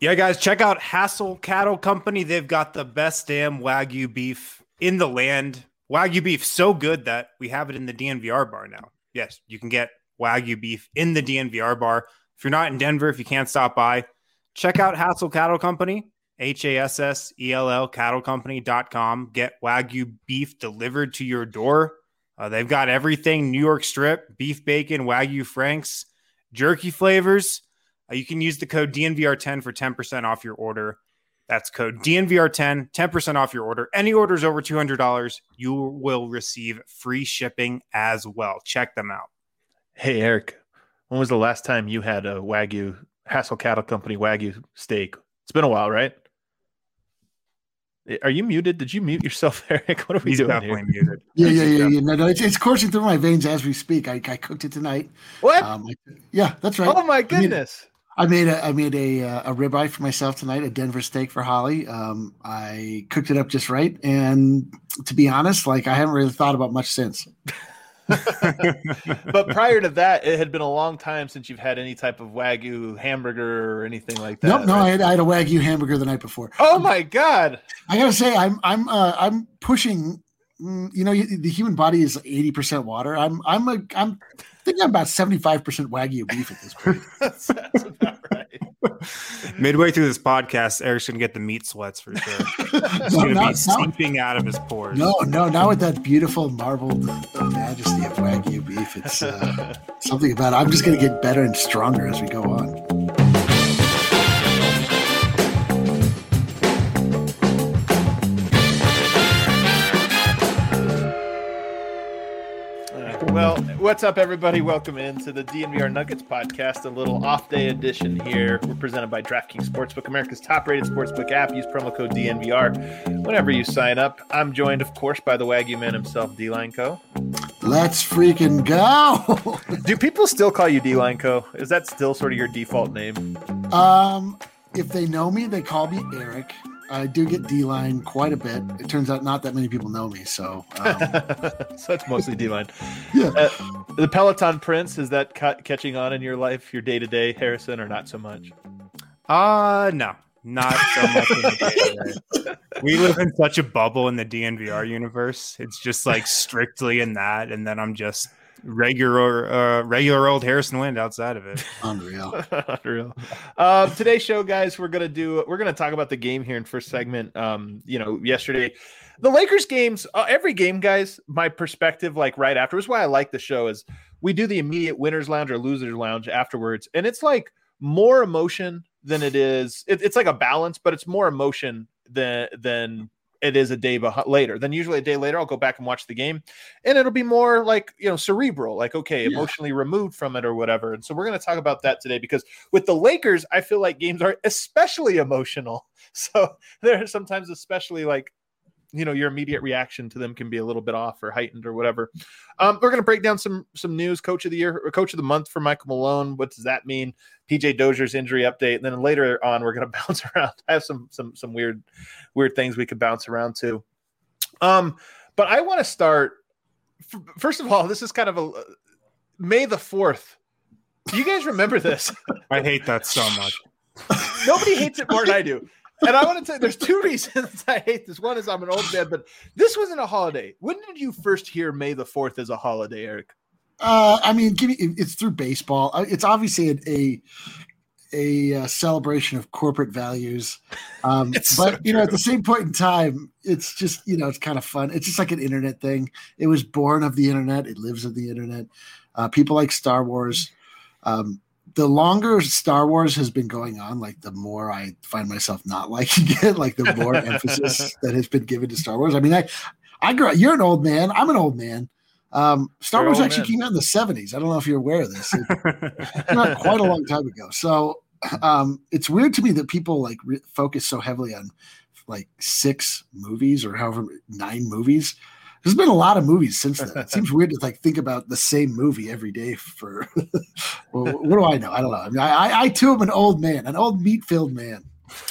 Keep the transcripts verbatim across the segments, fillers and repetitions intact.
Yeah, guys, check out Hassel Cattle Company. They've got the best damn Wagyu beef in the land. Wagyu beef so good that we have it in the D N V R bar now. Yes, you can get Wagyu beef in the D N V R bar. If you're not in Denver, if you can't stop by, check out Hassel Cattle Company, H A S S E L L cattle company dot com. Get Wagyu beef delivered to your door. Uh, they've got everything: New York strip, beef bacon, Wagyu Franks, jerky flavors. Uh, you can use the code D N V R ten for ten percent off your order. That's code D N V R ten, ten percent off your order. Any orders over two hundred dollars, you will receive free shipping as well. Check them out. Hey, Eric, when was the last time you had a Wagyu, Hassel Cattle Company Wagyu steak? It's been a while, right? Are you muted? Did you mute yourself, Eric? What are we He's doing definitely here? muted. Yeah, yeah, yeah, yeah. No, no, it's, it's coursing through my veins as we speak. I, I cooked it tonight. What? Um, yeah, that's right. Oh my goodness! I made a I made a a ribeye for myself tonight, a Denver steak for Holly. Um, I cooked it up just right, and to be honest, like I haven't really thought about much since. But prior to that, it had been a long time since you've had any type of Wagyu hamburger or anything like that. Nope, no, right? I had, I had a Wagyu hamburger the night before. Oh my god! I gotta say, I'm I'm uh, I'm pushing. You know, the human body is eighty percent water. I'm I'm a I'm thinking I'm about seventy-five percent Wagyu beef at this point. that's, that's about right. Midway through this podcast, Eric's going to get the meat sweats for sure. It's No, going to not- be seeping out of his pores. No, no, not with that beautiful marbled majesty of Wagyu beef. It's uh, something about it. I'm just going to get better and stronger as we go on. Well, what's up, everybody? Welcome into the D N V R Nuggets podcast, a little off-day edition here. We're presented by DraftKings Sportsbook, America's top-rated sportsbook app. Use promo code D N V R whenever you sign up. I'm joined, of course, by the Wagyu man himself, D-Line Co. Let's freaking go! Do people still call you D-Line Co? Is that still sort of your default name? um, if they know me, they call me Eric. I do get D-line quite a bit. It turns out not that many people know me, so um, so that's mostly D-Line. yeah. Uh, the Peloton Prince, is that ca- catching on in your life, your day-to-day, Harrison, or not so much? Uh, no, not so much. In the day-to-day. We live in such a bubble in the D N V R universe. It's just like strictly in that, and then I'm just regular, uh, regular old Harrison Wind outside of it. Unreal. Unreal. Um, today's show, guys, we're gonna do. We're gonna talk about the game here in first segment. Um, you know, yesterday, the Lakers games. Uh, every game, guys. My perspective, like right afterwards, why I like the show is we do the immediate winners lounge or losers lounge afterwards, and it's like more emotion than it is. It, it's like a balance, but it's more emotion than than. It is a day beh- later. Then usually a day later, I'll go back and watch the game, and it'll be more like, you know, cerebral, like, okay, Yeah. emotionally removed from it or whatever. And so we're going to talk about that today, because with the Lakers, I feel like games are especially emotional. So they're sometimes especially like, you know, your immediate reaction to them can be a little bit off or heightened or whatever. Um, we're going to break down some some news. Coach of the year or coach of the month for Michael Malone. What does that mean? P J Dozier's injury update, and then later on we're going to bounce around. I have some some some weird weird things we could bounce around to. Um, but I want to start. F- first of all, this is kind of a May the fourth. Do you guys remember this? I hate that so much. Nobody hates it more than I do. And I want to tell you, there's two reasons I hate this. One is I'm an old man, but this wasn't a holiday. When did you first hear May the fourth as a holiday, Eric? Uh, I mean, give me, it's through baseball. Uh, It's obviously a a, a uh, celebration of corporate values. Um, It's but, so you know, at true. the same point in time, it's just, you know, it's kind of fun. It's just like an internet thing. It was born of the internet. It lives of the internet. Uh, people like Star Wars. Um, the longer Star Wars has been going on, like the more I find myself not liking it, like the more emphasis that has been given to Star Wars. I mean, I, I grew up, you're an old man. I'm an old man. Um, Star You're Wars old actually man. came out in the seventies. I don't know if you're aware of this. It came out quite a long time ago. So um, it's weird to me that people like re- focus so heavily on like six movies or however nine movies. There's been a lot of movies since then. It seems weird to like think about the same movie every day for. Well, what do I know? I don't know. I mean, I, I, I too am an old man, an old meat-filled man.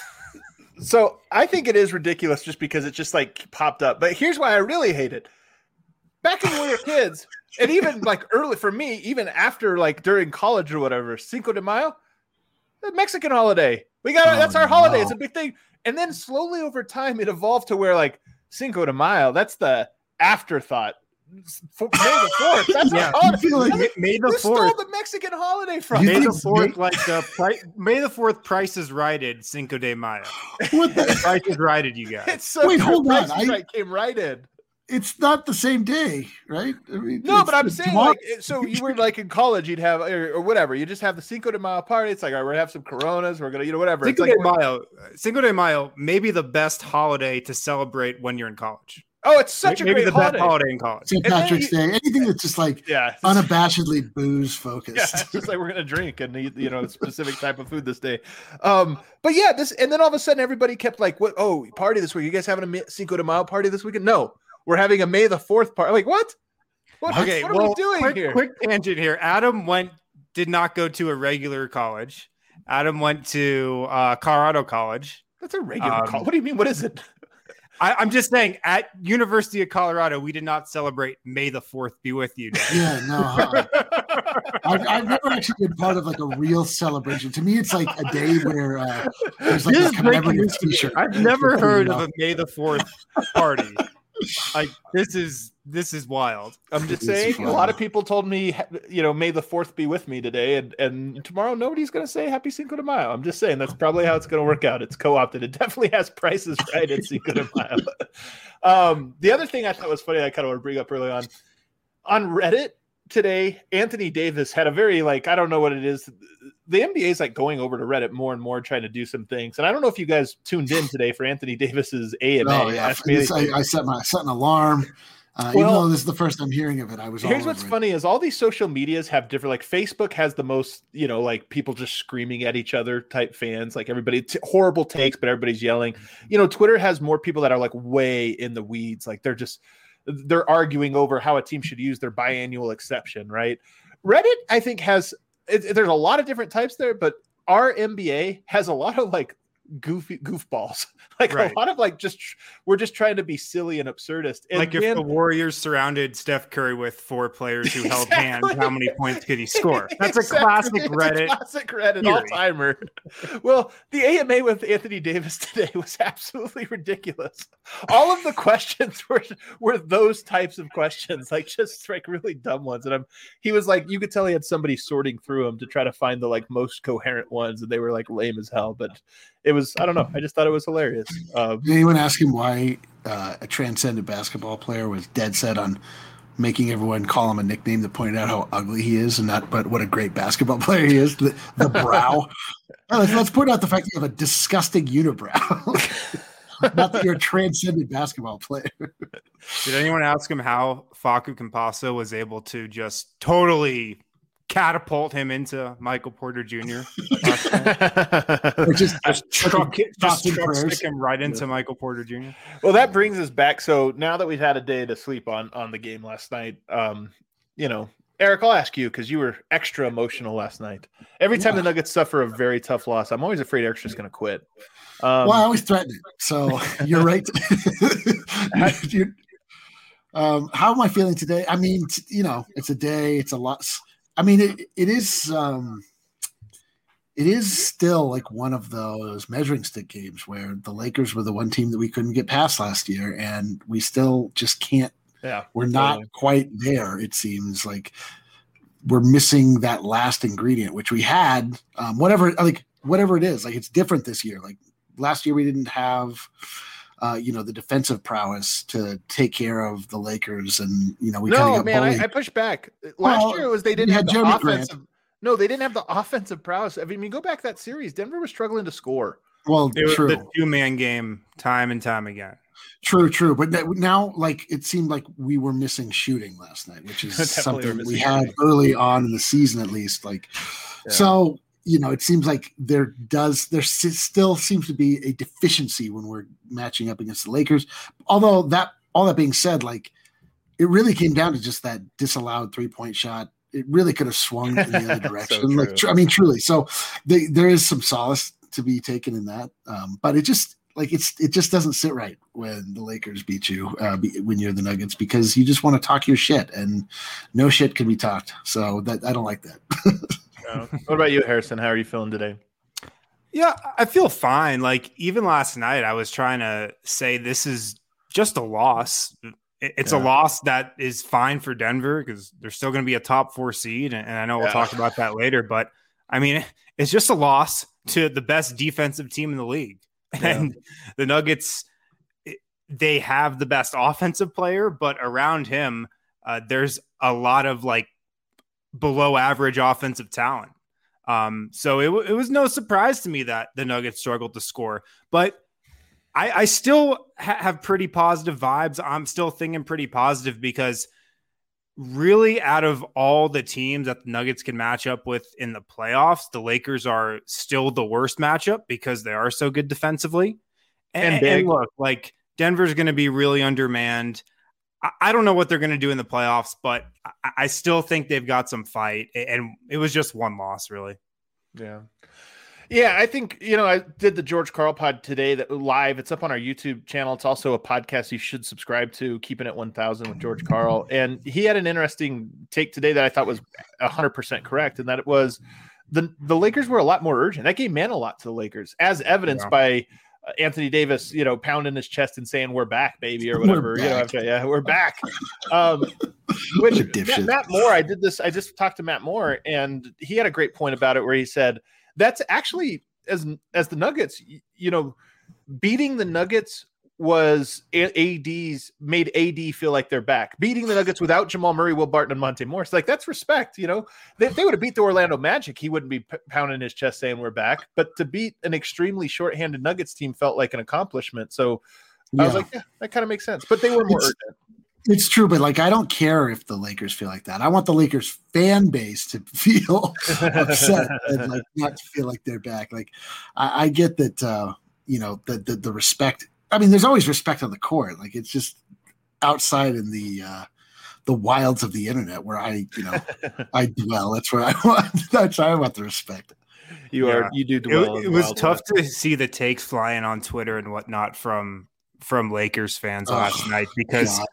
So I think it is ridiculous just because it just like popped up. But here's why I really hate it. Back when we were kids, and even like early for me, even after like during college or whatever, Cinco de Mayo, the Mexican holiday. We got Oh, that's our holiday. no. It's a big thing. And then slowly over time, it evolved to where like Cinco de Mayo. That's the afterthought. For, May the fourth. That's Yeah, our holiday. you feel like May, May the Who stole fourth. the Mexican holiday from? You May the think fourth, May- like the pri- May the fourth. Price is righted. Cinco de Mayo. What the? Price is righted, you guys. It's so Wait, true. hold on. Price is I- Right came right in. It's not the same day, right? I mean, No, it's but I'm the saying tomorrow- like it- so you were like in college, you'd have or, or whatever. You just have the Cinco de Mayo party. It's like, all right, we're gonna have some Coronas. We're gonna, you know, whatever. It's Cinco like, de Mayo. Cinco de Mayo may be the best holiday to celebrate when you're in college. oh, it's such a Maybe great the holiday. best holiday in college. Saint and then Patrick's you- Day, anything that's just like Yeah, it's- unabashedly booze focused. yeah, it's just like we're gonna drink and eat, you know, a specific type of food this day. Um, but yeah, this and then all of a sudden everybody kept like, "What? Oh, party this week? You guys having a Mi- Cinco de Mayo party this weekend?" No, we're having a May the Fourth party. Like what? What, Okay, what are well, we doing quick, here? quick tangent here. Adam went did not go to a regular college. Adam went to uh, Colorado College. That's a regular Um, call. What do you mean? What is it? I, I'm just saying, at University of Colorado, we did not celebrate May the Fourth be with you Day. Yeah, no. huh. I've, I've never actually been part of like a real celebration. To me, it's like a day where uh, there's like This a is breaking commemorative news to me. T-shirt. I've never heard You of know? a May the Fourth party. Like this is this is wild. I'm just It's saying, fun. a lot of people told me, you know, May the Fourth be with me today, and and tomorrow nobody's going to say Happy Cinco de Mayo. I'm just saying that's probably how it's going to work out. It's co-opted. It definitely has prices right at Cinco de Mayo. um, the other thing I thought was funny, I kind of want to bring up early on, on Reddit today, Anthony Davis had a very like I don't know what it is. The N B A is like going over to Reddit more and more, trying to do some things. And I don't know if you guys tuned in today for Anthony Davis's A M A. Oh yeah, Ask me This- I, anything. I set my set an alarm. Uh, even Well, though this is the first time hearing of it, I was. all Here's what's over it. funny is all these social medias have different, like Facebook has the most, you know, like people just screaming at each other type fans, like everybody t- horrible takes, but everybody's yelling. You know, Twitter has more people that are like way in the weeds. Like they're just, they're arguing over how a team should use their biannual exception, right? Reddit, I think has, it, there's a lot of different types there, but our N B A has a lot of like goofy goofballs. Like Right. a lot of like just we're just trying to be silly and absurdist. And like if when- the Warriors surrounded Steph Curry with four players who held hands, Exactly. how many points could he score? That's a Exactly. classic It's a Reddit. classic Reddit theory. all timer. Well, the A M A with Anthony Davis today was absolutely ridiculous. All of the questions were were those types of questions, like just like really dumb ones. And I'm he was like, you could tell he had somebody sorting through them to try to find the like most coherent ones, and they were like lame as hell. But it was I don't know. I just thought it was hilarious. Um, Did anyone ask him why uh, a transcendent basketball player was dead set on making everyone call him a nickname that pointed out how ugly he is, and not but what a great basketball player he is? The, the brow. Oh, let's, let's point out the fact that you have a disgusting unibrow. Not that you're a transcendent basketball player. Did anyone ask him how Facu Campazzo was able to just totally catapult him into Michael Porter Junior? Or just just truck, it- just thoughts and truck prayers. stick him right into Michael Porter Junior Well, that brings us back. So now that we've had a day to sleep on on the game last night, um, you know, Eric, I'll ask you because you were extra emotional last night. Every time the Nuggets suffer a very tough loss, I'm always afraid Eric's just going to quit. Um, Well, I always threaten it. So you're right. You- um, how am I feeling today? I mean, t- you know, it's a day. It's a lot. I mean, it it is. Um, it is still like one of those measuring stick games where the Lakers were the one team that we couldn't get past last year, and we still just can't. yeah, We're not totally. quite there. It seems like we're missing that last ingredient, which we had. Um, whatever, like whatever it is, like it's different this year. Like last year, we didn't have, uh, you know, the defensive prowess to take care of the Lakers, and you know, we kind No, of got man, bullied. I, I pushed back. Last Well, year it was they you didn't had have the Jeremy Grant. offensive. No, they didn't have the offensive prowess. I mean, go back that series. Denver was struggling to score. well, It was true, the two man game time and time again. true, true. But that, now, like, it seemed like we were missing shooting last night, which is Definitely were something we missing had shooting. early on in the season, at least. Like, Yeah. so you know, it seems like there does there s- still seems to be a deficiency when we're matching up against the Lakers. Although that, all that being said, like, it really came down to just that disallowed three point shot. It really could have swung in the other So direction. like, true. tr- I mean, truly. So they, there is some solace to be taken in that, um, but it just like it's it just doesn't sit right when the Lakers beat you uh, be, when you're the Nuggets, because you just want to talk your shit, and no shit can be talked. So that I don't like that. Uh, what about you, Harrison? How are you feeling today? Yeah, I feel fine. Like even last night, I was trying to say this is just a loss. It's yeah. a loss that is fine for Denver because they're still going to be a top four seed. And I know we'll yeah. talk about that later, but I mean, it's just a loss to the best defensive team in the league. Yeah. And the Nuggets, they have the best offensive player, but around him, uh, there's a lot of like below average offensive talent. Um, so it, w- it was no surprise to me that the Nuggets struggled to score, but I, I still ha- have pretty positive vibes. I'm still thinking pretty positive because really out of all the teams that the Nuggets can match up with in the playoffs, the Lakers are still the worst matchup because they are so good defensively. And, and, and look, like Denver's going to be really undermanned. I, I don't know what they're going to do in the playoffs, but I, I still think they've got some fight. And it was just one loss, really. Yeah. Yeah, I think, you know, I did the George Karl pod today that live. It's up on our YouTube channel. It's also a podcast you should subscribe to, Keeping It one thousand with George Karl. And he had an interesting take today that I thought was one hundred percent correct, and that it was the, the Lakers were a lot more urgent. That game meant a lot to the Lakers, as evidenced yeah. by uh, Anthony Davis, you know, pounding his chest and saying, "We're back, baby," or whatever. You know, after, yeah, we're back. Um, which Matt, Matt Moore, I did this. I just talked to Matt Moore, and he had a great point about it where he said, that's actually as as the Nuggets, you know, beating the Nuggets was A D's made A D feel like they're back. Beating the Nuggets without Jamal Murray, Will Barton, and Monte Morris, like that's respect. You know, they, if they would have beat the Orlando Magic, he wouldn't be p- pounding his chest saying we're back. But to beat an extremely shorthanded Nuggets team felt like an accomplishment. So yeah. I was like, yeah, that kind of makes sense. But they were more it's, urgent. It's true, but like I don't care if the Lakers feel like that. I want the Lakers fan base to feel upset and like not to feel like they're back. Like I, I get that, uh, you know, the, the the respect. I mean, there's always respect on the court. Like it's just outside in the uh, the wilds of the internet where I, you know, I dwell. That's where I want. That's where I want the respect. You yeah. are. You do dwell. It, it was tough world. to see the takes flying on Twitter and whatnot from from Lakers fans oh, last night because. God.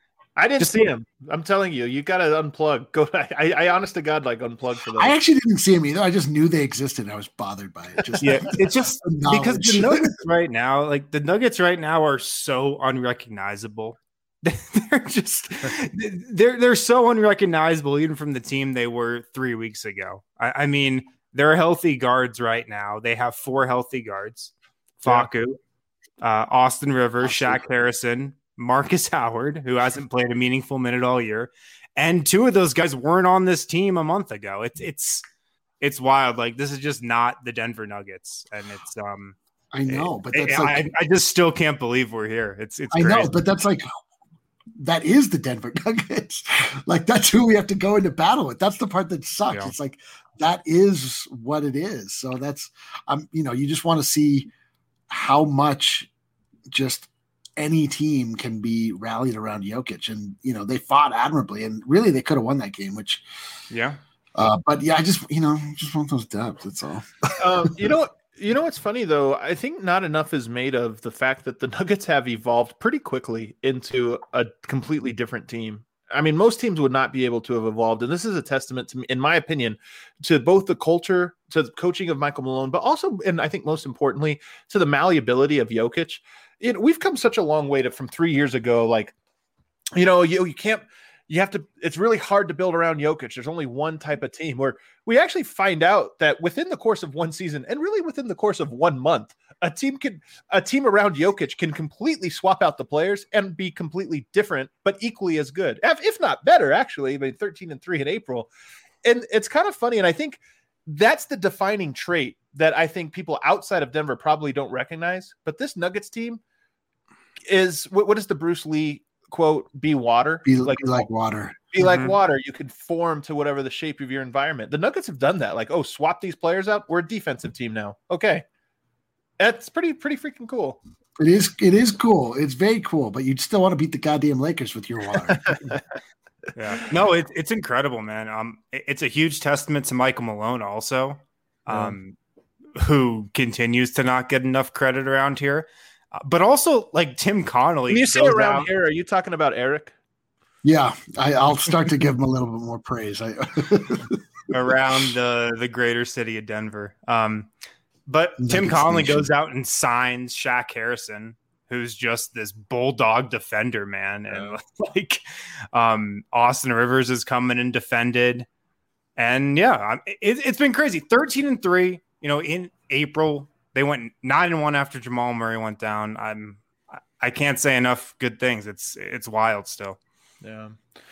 I didn't Just, see him. I'm telling you, you got to unplug. Go. I, I, honest to God, like unplug for that. I actually didn't see him either. I just knew they existed. And I was bothered by it. Just yeah, it's just because the Nuggets right now, like the Nuggets right now, are so unrecognizable. They're just they're they're so unrecognizable, even from the team they were three weeks ago. I, I mean, they're healthy guards right now. They have four healthy guards: Facu, yeah. uh, Austin Rivers, Shaq Harrison, Marcus Howard, who hasn't played a meaningful minute all year, and two of those guys weren't on this team a month ago. It's it's it's wild. Like this is just not the Denver Nuggets, and it's um. I know, it, but that's it, like, I, I just still can't believe we're here. It's it's. I crazy. know, but that's like that is the Denver Nuggets. Like that's who we have to go into battle with. That's the part that sucks. Yeah. It's like that is what it is. So that's um, you know, you just want to see how much just. Any team can be rallied around Jokic, and you know they fought admirably, and really they could have won that game. Which, yeah, uh, but yeah, I just you know just want those dubs. That's all. um, you know, you know what's funny though? I think not enough is made of the fact that the Nuggets have evolved pretty quickly into a completely different team. I mean, most teams would not be able to have evolved, and this is a testament to me, in my opinion, to both the culture, to the coaching of Michael Malone, but also, and I think most importantly, to the malleability of Jokic. It, we've come such a long way to from three years ago. Like, you know, you you can't, you have to. It's really hard to build around Jokic. There's only one type of team. Where we actually find out that within the course of one season, and really within the course of one month, a team can a team around Jokic can completely swap out the players and be completely different, but equally as good, if, if not better. Actually, I mean, thirteen and three in April, and it's kind of funny. And I think that's the defining trait that I think people outside of Denver probably don't recognize. But this Nuggets team is what, what is the Bruce Lee quote? Be water, be like, be like water, be mm-hmm. like water. You can form to whatever the shape of your environment. The Nuggets have done that. Like, oh, swap these players out. We're a defensive team now. Okay, that's pretty pretty freaking cool. It is. It is cool. It's very cool. But you'd still want to beat the goddamn Lakers with your water. Yeah, no, it, it's incredible, man. Um, it, it's a huge testament to Michael Malone, also, um, yeah. who continues to not get enough credit around here. Uh, but also, like Tim Connolly. When you say around out, here, are you talking about Eric? Yeah, I, I'll start to give him a little bit more praise. I, around the the greater city of Denver. Um, But Tim Nuggets Conley Nation. goes out and signs Shaq Harrison, who's just this bulldog defender, man. And Yeah. like um, Austin Rivers is coming and defended. And yeah, it, it's been crazy. thirteen and three, you know, in April, they went nine and one after Jamal Murray went down. I'm, I can't say enough good things. It's, it's wild still. Yeah.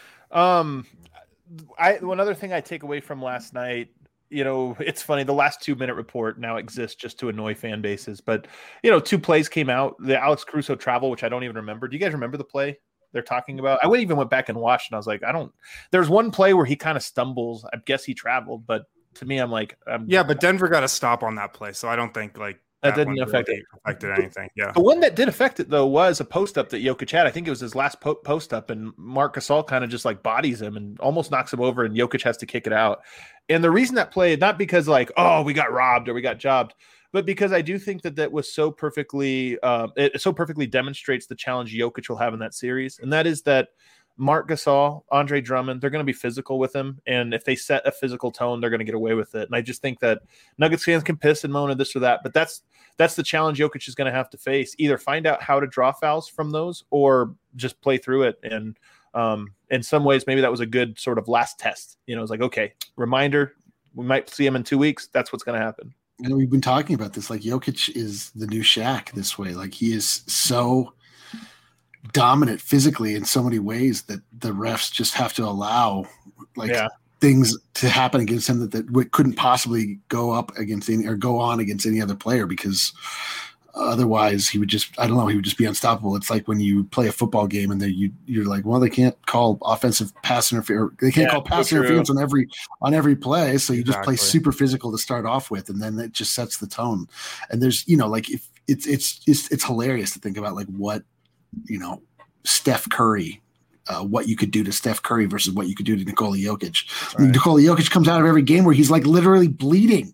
Um, I, one other thing I take away from last night, you know, it's funny. The last two minute report now exists just to annoy fan bases, but you know, two plays came out, the Alex Caruso travel, which I don't even remember. Do you guys remember the play they're talking about? I went even went back and watched and I was like, I don't, there's one play where he kind of stumbles. I guess he traveled, but to me, I'm like, I'm, Yeah, but Denver got a stop on that play. So I don't think like that, didn't one affect really it. affected anything. Yeah. The one that did affect it though was a post up that Jokic had. I think it was his last po- post up, and Marc Gasol kind of just like bodies him and almost knocks him over, and Jokic has to kick it out. And the reason that play, not because like, oh, we got robbed or we got jobbed, but because I do think that that was so perfectly, uh, it so perfectly demonstrates the challenge Jokic will have in that series, and that is that Marc Gasol, Andre Drummond, they're going to be physical with him, and if they set a physical tone, they're going to get away with it. And I just think that Nuggets fans can piss and moan at this or that, but that's that's the challenge Jokic is going to have to face. Either find out how to draw fouls from those, or just play through it. And um, in some ways, maybe that was a good sort of last test. You know, it's like, okay, reminder, we might see him in two weeks. That's what's going to happen. And we've been talking about this. Like Jokic is the new Shaq this way. Like he is so dominant physically in so many ways that the refs just have to allow like Yeah. things to happen against him that, that w- couldn't possibly go up against any or go on against any other player, because otherwise he would just, I don't know, he would just be unstoppable. It's like when you play a football game and then you you're like, well, they can't call offensive pass interference. They can't Yeah, call pass so true. interference on every on every play. So you just play Exactly. super physical to start off with, and then it just sets the tone. And there's, you know, like if it's it's it's it's hilarious to think about like what, you know, Steph Curry, uh, what you could do to Steph Curry versus what you could do to Nikola Jokic. Right. Nikola Jokic comes out of every game where he's like literally bleeding.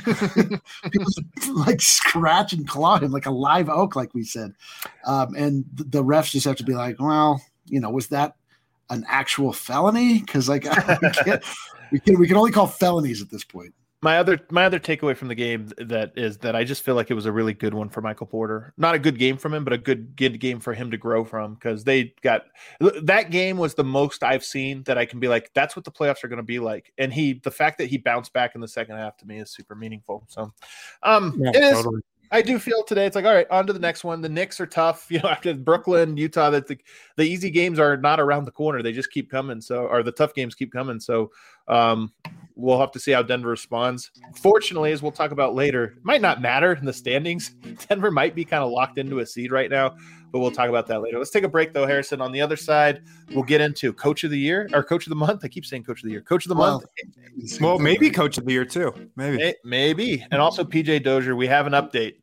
People like scratch and claw him like a live oak, like we said. Um, and th- the refs just have to be like, well, you know, was that an actual felony? Because like we, can't, we can we can only call felonies at this point. My other my other takeaway from the game that is that I just feel like it was a really good one for Michael Porter. Not a good game from him, but a good good game for him to grow from, because they got that game was the most I've seen that I can be like, that's what the playoffs are going to be like. And he the fact that he bounced back in the second half to me is super meaningful. So um Yeah, it is totally. I do feel today it's like, all right, on to the next one. The Knicks are tough, you know, after Brooklyn, Utah, that the, the easy games are not around the corner. They just keep coming. So, or the tough games keep coming. So, um, we'll have to see how Denver responds. Fortunately, as we'll talk about later, it might not matter in the standings. Denver might be kind of locked into a seed right now, but we'll talk about that later. Let's take a break though, Harrison. On the other side, we'll get into Coach of the Year or Coach of the Month. I keep saying Coach of the Year, Coach of the Well, Month. Well, maybe coach of the year too. Maybe. May- Maybe. And also P J Dozier. We have an update.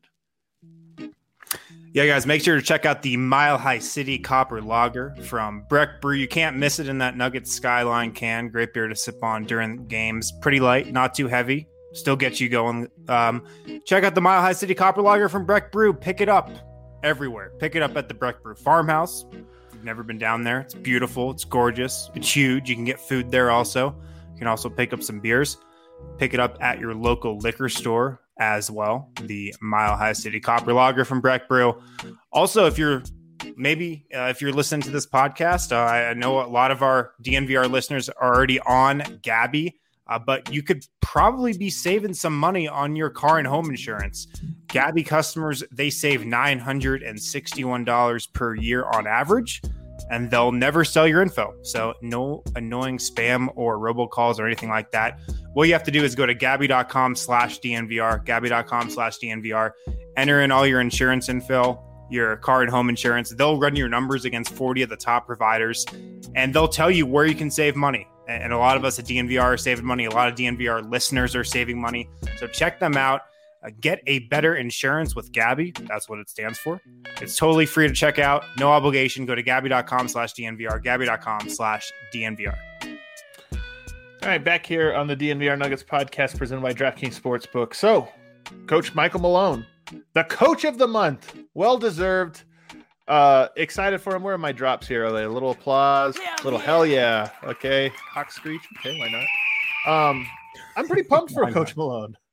Yeah, guys, make sure to check out the Mile High City Copper Lager from Breck Brew. You can't miss it in that Nugget Skyline can. Great beer to sip on during games. Pretty light, not too heavy. Still gets you going. Um, check out the Mile High City Copper Lager from Breck Brew. Pick it up everywhere. Pick it up at the Breck Brew Farmhouse. If you've never been down there, it's beautiful. It's gorgeous. It's huge. You can get food there also. You can also pick up some beers. Pick it up at your local liquor store as well. The Mile High City Copper Lager from Breck Brew. Also, if you're maybe uh, if you're listening to this podcast, uh, I I know a lot of our D N V R listeners are already on Gabby, uh, but you could probably be saving some money on your car and home insurance. Gabby customers, they save nine hundred sixty-one dollars per year on average, and they'll never sell your info. So no annoying spam or robocalls or anything like that. What you have to do is go to Gabby.com slash DNVR, Gabby.com slash DNVR, enter in all your insurance info, your car and home insurance. They'll run your numbers against forty of the top providers, and they'll tell you where you can save money. And a lot of us at D N V R are saving money. A lot of D N V R listeners are saving money. So check them out. Uh, get a better insurance with Gabby. That's what it stands for. It's totally free to check out. No obligation. Go to Gabby.com slash DNVR, Gabby.com slash DNVR. All right, back here on the D N V R Nuggets podcast presented by DraftKings Sportsbook. So, Coach Michael Malone, the coach of the month, well-deserved. Uh, excited for him. Where are my drops here? Are they a little applause? A little hell yeah. Okay. Hawk screech. Okay, why not? Um, I'm pretty pumped for Why Coach not? Malone.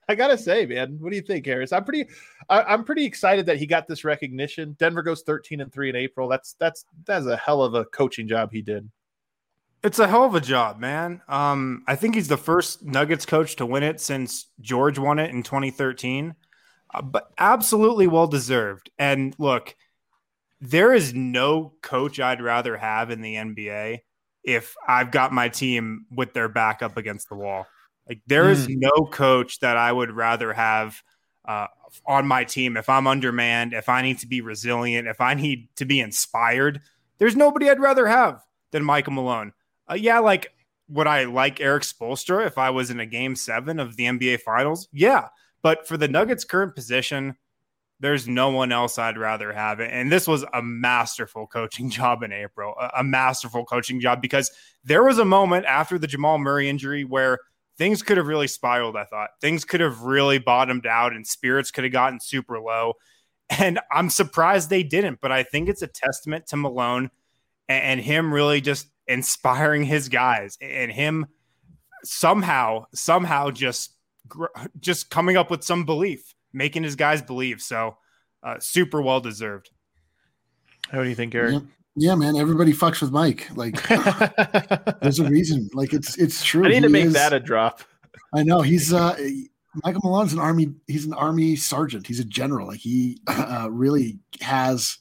I gotta say, man, what do you think, Harris? I'm pretty, I, I'm pretty excited that he got this recognition. Denver goes thirteen and three in April. That's that's that's a hell of a coaching job he did. It's a hell of a job, man. Um, I think he's the first Nuggets coach to win it since George won it in twenty thirteen, uh, but absolutely well deserved. And look, there is no coach I'd rather have in the N B A if I've got my team with their back up against the wall. Like there is Mm. no coach that I would rather have uh, on my team if I'm undermanned, if I need to be resilient, if I need to be inspired. There's nobody I'd rather have than Michael Malone. Uh, yeah, like would I like Eric Spoelstra if I was in a game seven of the N B A Finals? Yeah, but for the Nuggets' current position, there's no one else I'd rather have it. And this was a masterful coaching job in April, a, a masterful coaching job, because there was a moment after the Jamal Murray injury where things could have really spiraled, I thought. Things could have really bottomed out and spirits could have gotten super low. And I'm surprised they didn't, but I think it's a testament to Malone and, and him really just inspiring his guys and him somehow, somehow just, just coming up with some belief, making his guys believe. So uh, super well deserved. How do you think, Eric? Yeah. Yeah, man, everybody fucks with Mike. Like, there's a reason. Like, it's it's true. I need He to make is, that a drop. I know he's uh, Michael Malone's an army. He's an army sergeant. He's a general. Like, he uh, really has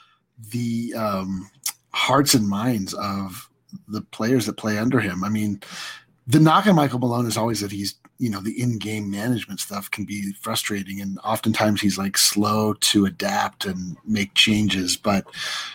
the um, hearts and minds of the players that play under him. I mean, the knock on Michael Malone is always that he's, you know, the in-game management stuff can be frustrating, and oftentimes he's like slow to adapt and make changes, but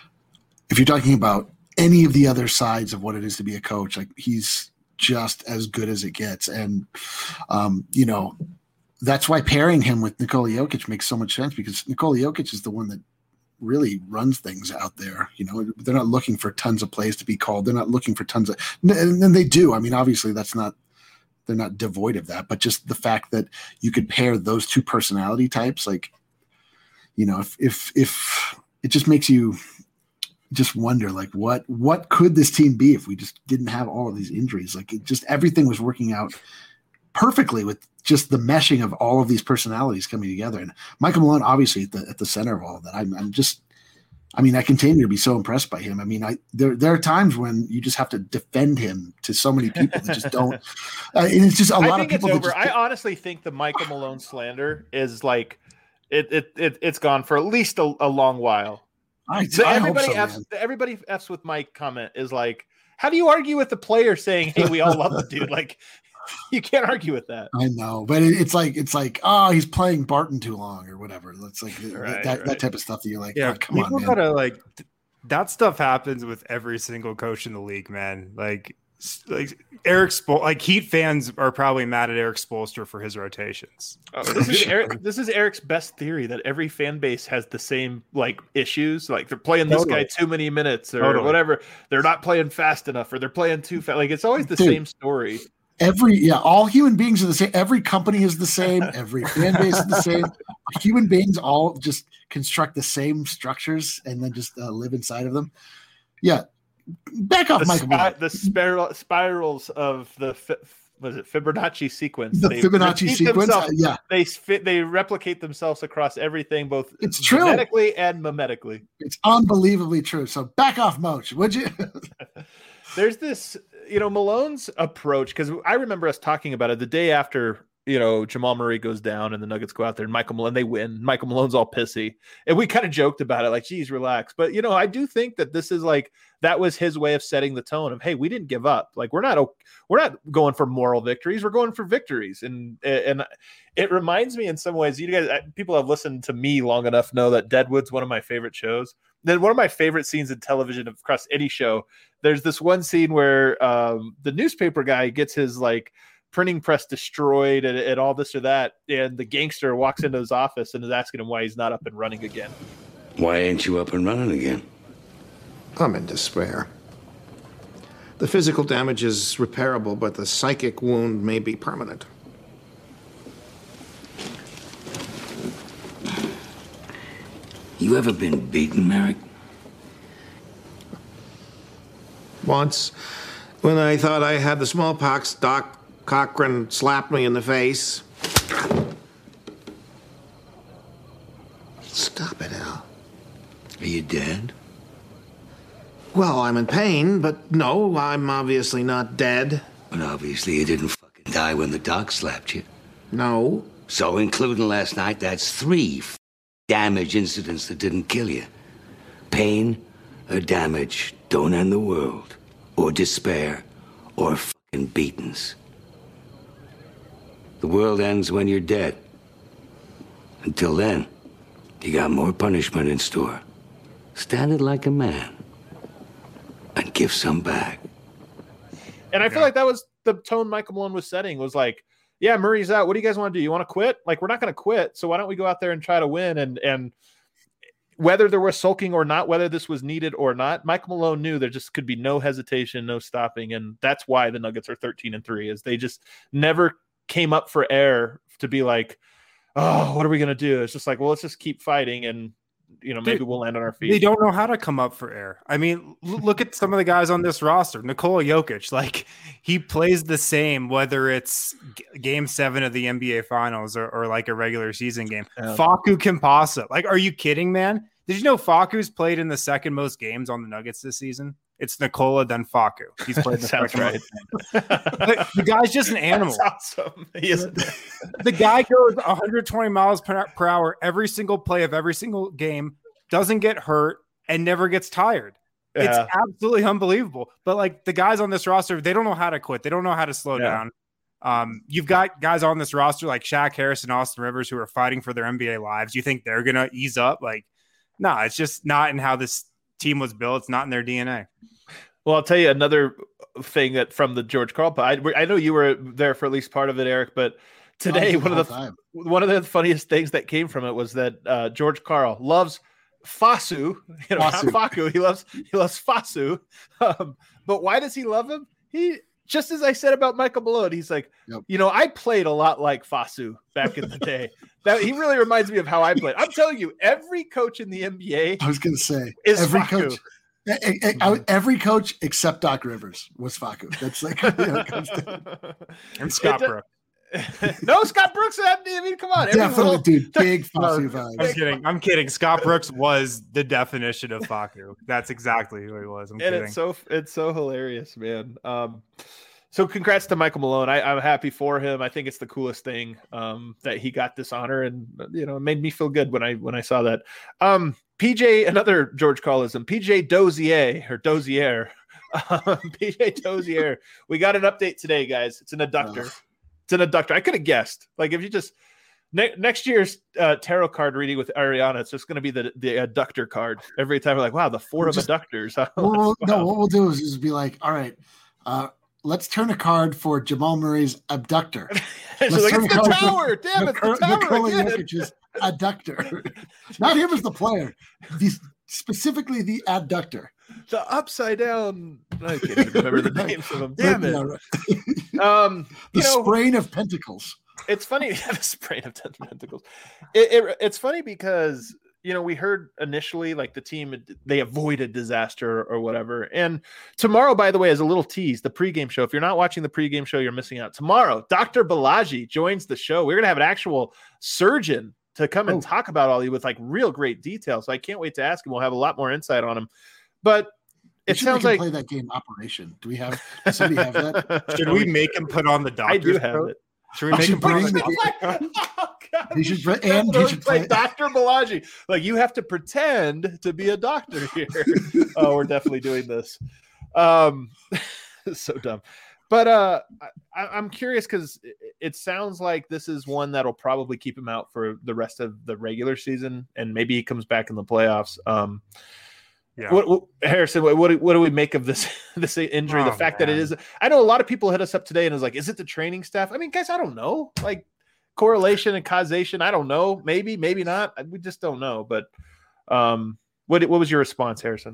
if you're talking about any of the other sides of what it is to be a coach, like he's just as good as it gets. And, um, you know, that's why pairing him with Nikola Jokic makes so much sense, because Nikola Jokic is the one that really runs things out there. You know, they're not looking for tons of plays to be called. They're not looking for tons of, and, and they do. I mean, obviously that's not, they're not devoid of that, but just the fact that you could pair those two personality types, like, you know, if, if, if it just makes you just wonder, like, what what could this team be if we just didn't have all of these injuries? Like, it just everything was working out perfectly with just the meshing of all of these personalities coming together. And Michael Malone, obviously, at the at the center of all of that. I'm, I'm just, I mean, I continue to be so impressed by him. I mean, I there there are times when you just have to defend him to so many people that just don't. Uh, and it's just a lot I of think people. It's That over. just, I honestly think the Michael Malone slander is like it it, it it's gone for at least a, a long while. I, So I everybody hope so, F's, man. everybody F's with Mike comment is like, how do you argue with the player saying, "Hey, we all love the dude"? Like, you can't argue with that. I know, but it, it's like it's like oh, he's playing Barton too long or whatever. That's like Right, that right. that type of stuff that you're like, Yeah, oh, come people on, man. gotta like th- that stuff happens with every single coach in the league, man. Like, s- like Eric Spol- like Heat fans are probably mad at Eric Spoelstra for his rotations. Oh, this is Eric. This is Eric's best theory that every fan base has the same like issues. Like they're playing this Totally. guy too many minutes or Totally. whatever. They're not playing fast enough or they're playing too fast. Like it's always the Dude. same story. Every yeah, all human beings are the same. Every company is the same. Every fan base is the same. Human beings all just construct the same structures and then just uh, live inside of them. Yeah, back off, The, Michael. spi- Malone. the spiral spirals of the fi- was it Fibonacci sequence? The They Fibonacci repeat sequence. themselves- uh, yeah, They fit. They replicate themselves across everything, both It's true. genetically and mimetically. it's unbelievably true. So back off, Moach, would you? There's this, you know, Malone's approach, because I remember us talking about it the day after, you know, Jamal Murray goes down and the Nuggets go out there and Michael Malone, they win. Michael Malone's all pissy. And we kind of joked about it, like, geez, relax. But, you know, I do think that this is like, that was his way of setting the tone of, hey, we didn't give up. Like, we're not, we're not going for moral victories. We're going for victories. And, and it reminds me in some ways, you guys, people have listened to me long enough know that Deadwood's one of my favorite shows. Then one of my favorite scenes in television across any show, there's this one scene where um, the newspaper guy gets his like printing press destroyed and, and all this or that. And the gangster walks into his office and is asking him why he's not up and running again. Why ain't you up and running again? I'm in despair. The physical damage is repairable, but the psychic wound may be permanent. You ever been beaten, Merrick? Once, when I thought I had the smallpox, Doc Cochran slapped me in the face. Stop it, Al. Are you dead? Well, I'm in pain, but no, I'm obviously not dead. But obviously you didn't fucking die when the doc slapped you. No. So, including last night, that's three f- damage incidents that didn't kill you. Pain or damage don't end the world. Or despair. Or fucking beatings. The world ends when you're dead. Until then, you got more punishment in store. Stand it like a man. And give some back. And I feel Yeah. like that was the tone Michael Malone was setting, was like, yeah, Murray's out. What do you guys want to do? You want to quit? Like, we're not going to quit. So why don't we go out there and try to win? And and whether there was sulking or not, whether this was needed or not, Michael Malone knew there just could be no hesitation, no stopping. And that's why the Nuggets are thirteen and three, is they just never came up for air to be like, oh, what are we going to do? It's just like, well, let's just keep fighting. And, you know, maybe Dude, we'll land on our feet. They don't know how to come up for air. I mean, l- look at some of the guys on this roster. Nikola Jokic, like he plays the same, whether it's g- game seven of the N B A finals or, or like a regular season game. Yeah. Facu Campazzo. Like, are you kidding, man? Did you know Facu's played in the second most games on the Nuggets this season? It's Nikola, then Facu. He's played the Sounds second right. most games. But the guy's just an animal. That's awesome. He is. The guy goes one hundred twenty miles per, per hour every single play of every single game, doesn't get hurt, and never gets tired. Yeah. It's absolutely unbelievable. But like the guys on this roster, they don't know how to quit. They don't know how to slow Yeah. down. Um, you've got guys on this roster like Shaq Harris and Austin Rivers who are fighting for their N B A lives. You think they're gonna ease up? Like, no, it's just not in how this team was built. It's not in their D N A. Well, I'll tell you another thing that from the George Karl pod. I, I know you were there for at least part of it, Eric, but today Oh, one of the time. one of the funniest things that came from it was that uh, George Karl loves Fasu, you know, Fasu. not Facu. He loves he loves Fasu. Um, but why does he love him? He just as I said about Michael Malone, he's like, Yep. you know, I played a lot like Fasu back in the day. That he really reminds me of how I played. I'm telling you, every coach in the N B A I was going to say is every Facu. coach, e- e- e- every coach except Doc Rivers was Facu. That's like you know, it comes to- And Scott It- Brooks. no, Scott Brooks. I mean, come on, every definitely, little- dude. Big No, Facu I'm vibes. kidding. I'm kidding. Scott Brooks was the definition of Facu. That's exactly who he was. I'm and kidding. it's so it's so hilarious, man. Um, so congrats to Michael Malone. I, I'm happy for him. I think it's the coolest thing um, that he got this honor, and you know, it made me feel good when I when I saw that. Um, P J, another George Carlism, P J Dozier or Dozier, um, P J Dozier. We got an update today, guys. It's an adductor. Oh. It's an adductor. I could have guessed. Like if you just ne- next year's uh, tarot card reading with Ariana, it's just going to be the the adductor card every time. We're like, wow, the four Just- of adductors. Well, well, no, Wow. what we'll do is, is be like, all right, uh, let's turn a card for Jamal Murray's abductor. She's Let's like, turn it's a the card for tower. Damn, it's the tower Nikola again. Jokic's abductor. Not him as the player, the, specifically the abductor. The upside down. I can't even remember the names of them. Damn Yeah, it. right. Um, The you know, sprain of pentacles. it's funny. The sprain of ten pentacles. It, it, it's funny because you know we heard initially like the team they avoided disaster or whatever. And tomorrow, by the way, is a little tease. The pregame show. If you're not watching the pregame show, you're missing out. Tomorrow, Doctor Balaji joins the show. We're gonna have an actual surgeon to come and Oh. talk about all these with like real great details. So I can't wait to ask him. We'll have a lot more insight on him. But We it should sounds make like him play that game Operation. Do we have? Does somebody have that? Should we make him put on the doctor's I do have coat? it. Should we I make should him put on bring the the- doctor's coat? Oh, God. He should play- Definitely and he should play play- Doctor Balaji. Like you have to pretend to be a doctor here. Oh, we're definitely doing this. Um, so dumb. But uh, I, I'm curious because it, it sounds like this is one that'll probably keep him out for the rest of the regular season, and maybe he comes back in the playoffs. Um, Yeah. What, what Harrison? What, what do- what do we make of this this injury? the Oh, fact that it man. is. I know a lot of people hit us up today and was like, "Is it the training staff?" I mean, guys, I don't know. Like correlation and causation, I don't know. Maybe, maybe not. We just don't know. But um, what what was your response, Harrison?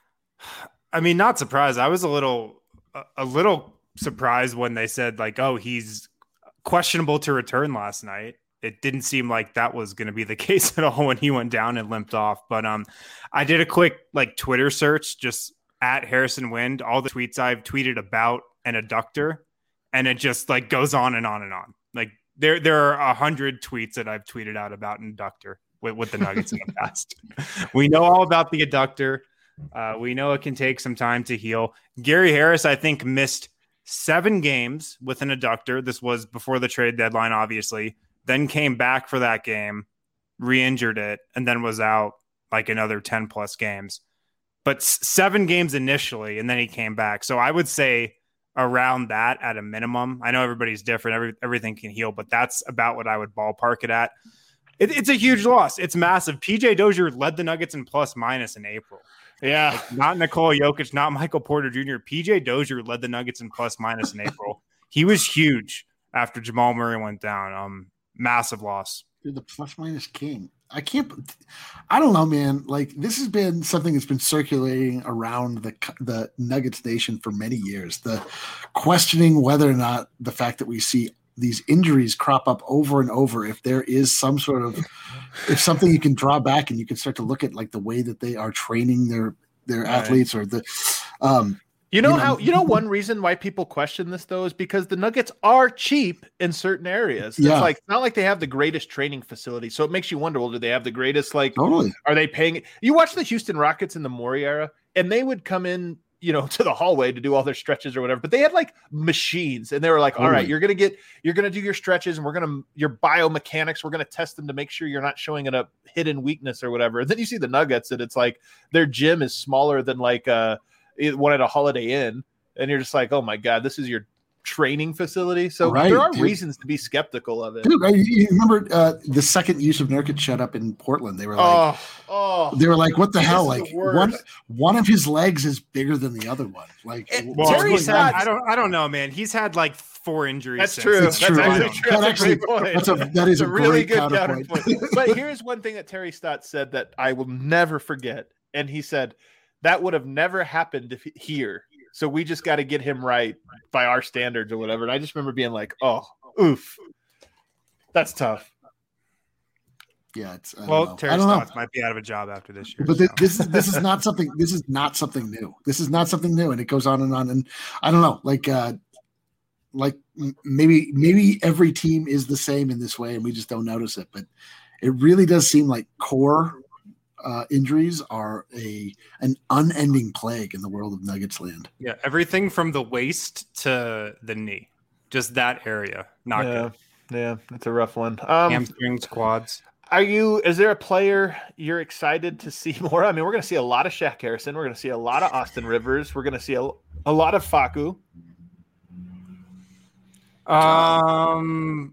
I mean, not surprised. I was a little, a, a little surprised when they said like, "Oh, he's questionable to return last night." It didn't seem like that was going to be the case at all when he went down and limped off. But um, I did a quick like Twitter search, just at Harrison Wind, all the tweets I've tweeted about an adductor, and it just like goes on and on and on. Like there, there are a hundred tweets that I've tweeted out about an adductor. with, with the Nuggets in the past. We know all about the adductor. Uh, we know it can take some time to heal. Gary Harris, I think, missed seven games with an adductor. This was before the trade deadline, obviously. Then came back for that game, re-injured it, and then was out like another ten plus games. But seven games initially, and then he came back. So I would say around that at a minimum. I know everybody's different. Every, everything can heal, but that's about what I would ballpark it at. It, it's a huge loss. It's massive. P J Dozier led the Nuggets in plus minus in April. Yeah. Like, not Nikola Jokic, not Michael Porter Junior P J Dozier led the Nuggets in plus minus in April. He was huge after Jamal Murray went down. Um, massive loss. Dude, the plus minus king. I can't. I don't know, man. Like, this has been something that's been circulating around the the Nuggets nation for many years. The questioning whether or not the fact that we see these injuries crop up over and over, if there is some sort of, if something you can draw back and you can start to look at like the way that they are training their their Right. athletes or the. Um, You know You know- how you know one reason why people question this though is because the Nuggets are cheap in certain areas. It's Yeah. like it's not like they have the greatest training facility. So it makes you wonder, well, do they have the greatest like totally. are they paying you watch the Houston Rockets in the Morey era and they would come in, you know, to the hallway to do all their stretches or whatever, but they had like machines and they were like, all right, Totally. you're gonna get you're gonna do your stretches and we're gonna your biomechanics, we're gonna test them to make sure you're not showing a hidden weakness or whatever. And then you see the Nuggets and it's like their gym is smaller than like uh one at a Holiday Inn. And you're just like, oh my God, this is your training facility. So Right, there are dude. reasons to be skeptical of it. Dude, I, you remember uh, the second use of Nurkic shut up in Portland? They were like, Oh, oh, they were like, what the This hell? is Like the worst. one one of his legs is bigger than the other one. Like, It- what's Terry going Stotts- on? I don't. I don't know, man. He's had like four injuries. that's since. true. It's That's true. actually That true. That's actually- a great point. That's a that is It's a, a really great good counterpoint. counterpoint. But here's one thing that Terry Stott said that I will never forget. And he said that would have never happened if here. So we just got to get him right by our standards or whatever. And I just remember being like, oh, oof. That's tough. Yeah, it's I don't Well, know. Terry I don't know. Stotts might be out of a job after this year. But thi- so. this is this is not something. This is not something new. This is not something new, and it goes on and on. And I don't know, like, uh, like m- maybe maybe every team is the same in this way, and we just don't notice it. But it really does seem like core uh, injuries are a an unending plague in the world of Nuggets land. Yeah, everything from the waist to the knee, just that area. Not yeah, good. yeah, it's a rough one. Um, Hamstrings, quads. Are you? Is there a player you're excited to see more? I mean, we're going to see a lot of Shaq Harrison. We're going to see a lot of Austin Rivers. We're going to see a, a lot of Facu. Um,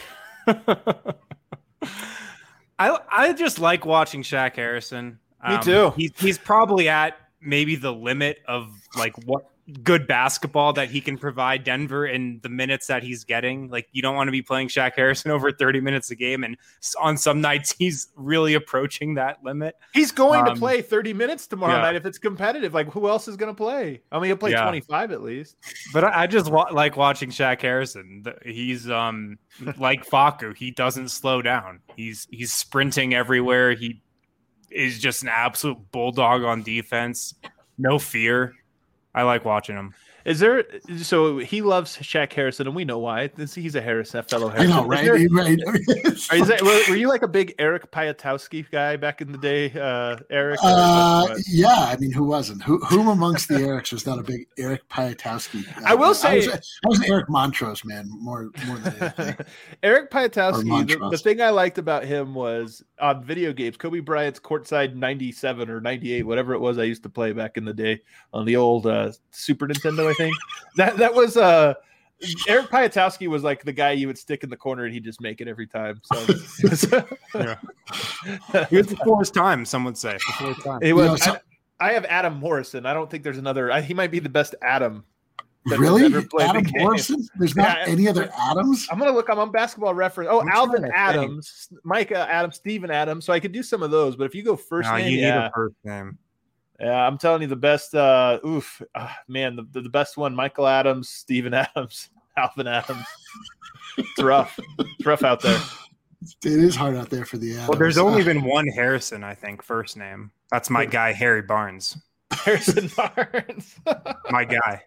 I I just like watching Shaq Harrison. Me Um, too. He's he's probably at maybe the limit of like what good basketball that he can provide Denver in the minutes that he's getting. Like, you don't want to be playing Shaq Harrison over thirty minutes a game, and s- on some nights he's really approaching that limit. He's going to Um, play thirty minutes tomorrow yeah. night if it's competitive. Like, who else is going to play? I mean, he'll play Yeah. twenty-five at least. But I, I just wa- like watching Shaq Harrison. The- He's um like Facu. He doesn't slow down. He's he's sprinting everywhere. He is just an absolute bulldog on defense. No fear. I like watching him. Is there? So he loves Shaq Harrison, and we know why. This- He's a Harrison, a fellow I Harrison. know, Is right? there- right. Are you, were, were you like a big Eric Piatowski guy back in the day, uh, Eric? or Uh, what? yeah, I mean, who wasn't? Who whom amongst the Erics was not a big Eric Piatowski? I will I say- was, I was an Eric Montrose man more more than anything. Eric Or Piatowski, the, Montrose. the thing I liked about him was on video games, Kobe Bryant's Courtside ninety-seven or ninety-eight, whatever it was I used to play back in the day on the old uh, Super Nintendo, I think. That that was uh, Eric Piatowski was like the guy you would stick in the corner and he'd just make it every time. So Yeah. He was before his time, some would say. Before his time. it was. You know, so- I, I have Adam Morrison. I don't think there's another. I, he might be the best Adam. that has Really, ever played the Adam game. Morrison? There's not Yeah, any other Adams. I'm gonna look. I'm on Basketball Reference. Oh, I'm Alvin trying to Adams, Micah Adams, Steven Adams. So I could do some of those. But if you go first No, name, you yeah, need a first name. yeah, I'm telling you the best. Uh, oof, ah, man, the, the the best one: Michael Adams, Steven Adams, Alvin Adams. It's rough. It's rough out there. It is hard out there for the Adams. Well, there's only Uh, been one Harrison, I think, first name. That's my guy, Harry Barnes. Harrison Barnes. My guy.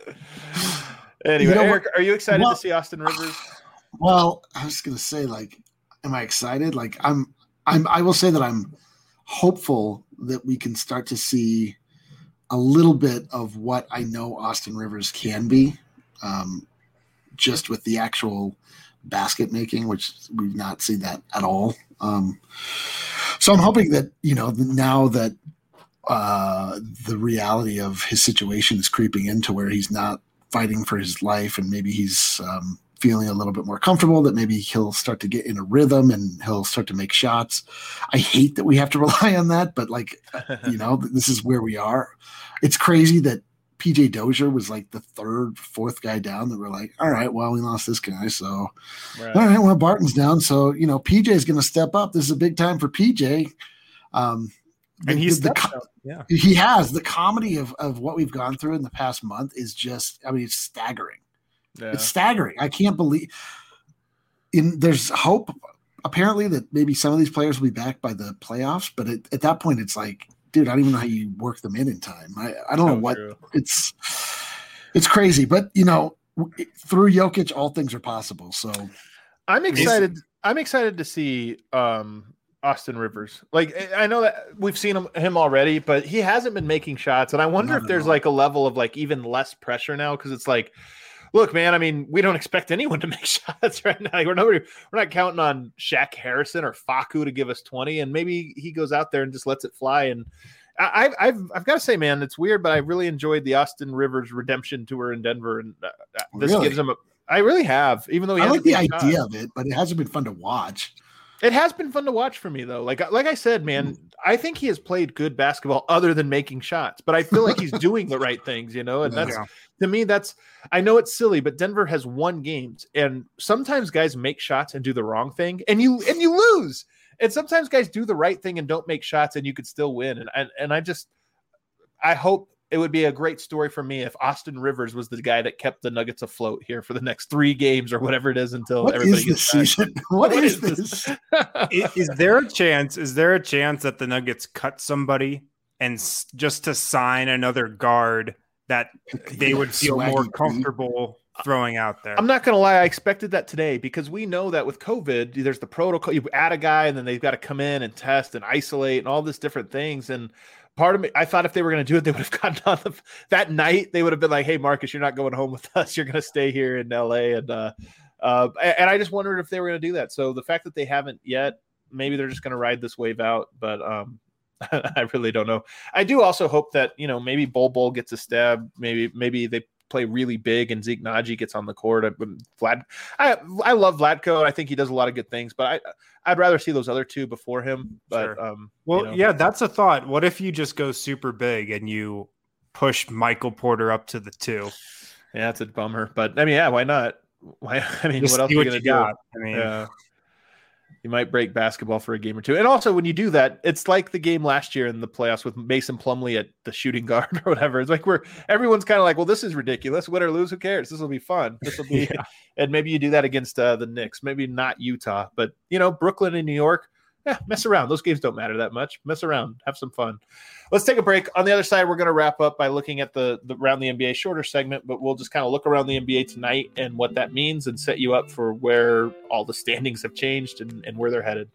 Anyway, You know Eric, are you excited well- to see Austin Rivers? well, I was gonna say, like, am I excited? Like, I'm. I'm, I will say that I'm hopeful that we can start to see a little bit of what I know Austin Rivers can be, um, just with the actual basket making, which we've not seen that at all. Um, so I'm hoping that, you know, now that uh, the reality of his situation is creeping into where he's not fighting for his life and maybe he's um, feeling a little bit more comfortable, that maybe he'll start to get in a rhythm and he'll start to make shots. I hate that we have to rely on that, but like, you know, this is where we are. It's crazy that P J Dozier was like the third, fourth guy down that we're like, all right, well, we lost this guy. So, right. all right, well, Barton's down. So, you know, P J is going to step up. This is a big time for P J. Um, and the, he's the, the, yeah, he has the comedy of, of what we've gone through in the past month is just, I mean, it's staggering. Yeah. It's staggering. I can't believe in there's hope apparently that maybe some of these players will be back by the playoffs. But at, at that point, it's like, dude, I don't even know how you work them in in time. I, I don't so know what true. it's, it's crazy, but you know, through Jokic, all things are possible. So I'm excited. I'm excited to see um, Austin Rivers. Like, I know that we've seen him, him already, but he hasn't been making shots. And I wonder Not if there's all. like a level of like even less pressure now. Cause it's like, look, man, I mean, we don't expect anyone to make shots right now. We're nobody, we're not counting on Shaq Harrison or Facu to give us twenty, and maybe he goes out there and just lets it fly. And I, I've, I've got to say, man, it's weird, but I really enjoyed the Austin Rivers redemption tour in Denver, and uh, this really? gives him a. I really have, even though he I like the idea shot. of it, but it hasn't been fun to watch. It has been fun to watch for me, though. Like, like I said, man, I think he has played good basketball other than making shots, but I feel like he's doing the right things, you know, and that's. Yeah. To me, that's I know it's silly, but Denver has won games, and sometimes guys make shots and do the wrong thing, and you and you lose. And sometimes guys do the right thing and don't make shots, and you could still win. And and, and I just I hope it would be a great story for me if Austin Rivers was the guy that kept the Nuggets afloat here for the next three games or whatever it is until what everybody is gets this back. season? What, what is this? is, is there a chance? Is there a chance that the Nuggets cut somebody and s- just to sign another guard that they would feel Swaggy more comfortable throwing out there? I'm not going to lie. I expected that today because we know that with COVID, there's the protocol. You add a guy and then they've got to come in and test and isolate and all these different things. And part of me, I thought if they were going to do it, they would have gotten on the, that night. They would have been like, hey, Marcus, you're not going home with us. You're going to stay here in L A. And, uh, uh, and I just wondered if they were going to do that. So the fact that they haven't yet, maybe they're just going to ride this wave out. But, um, I really don't know. I do also hope that, you know, maybe Bol Bol gets a stab. Maybe maybe they play really big and Zeke Naji gets on the court. I, Vlad, I I love Vlatko. I think he does a lot of good things, but I I'd rather see those other two before him. But sure. um, well, you know. yeah, that's a thought. What if you just go super big and you push Michael Porter up to the two? Yeah, that's a bummer. But I mean, yeah, why not? Why? I mean, just what else are you gonna do? Got. I mean. Yeah. You might break basketball for a game or two. And also when you do that, it's like the game last year in the playoffs with Mason Plumlee at the shooting guard or whatever. It's like where everyone's kind of like, well, this is ridiculous. Win or lose, who cares? This will be fun. This will be, yeah. And maybe you do that against uh, the Knicks, maybe not Utah, but you know, Brooklyn and New York, yeah, mess around. Those games don't matter that much. Mess around, have some fun. Let's take a break. On the other side, we're going to wrap up by looking at the, the around the N B A shorter segment, but we'll just kind of look around the N B A tonight and what that means and set you up for where all the standings have changed and, and where they're headed.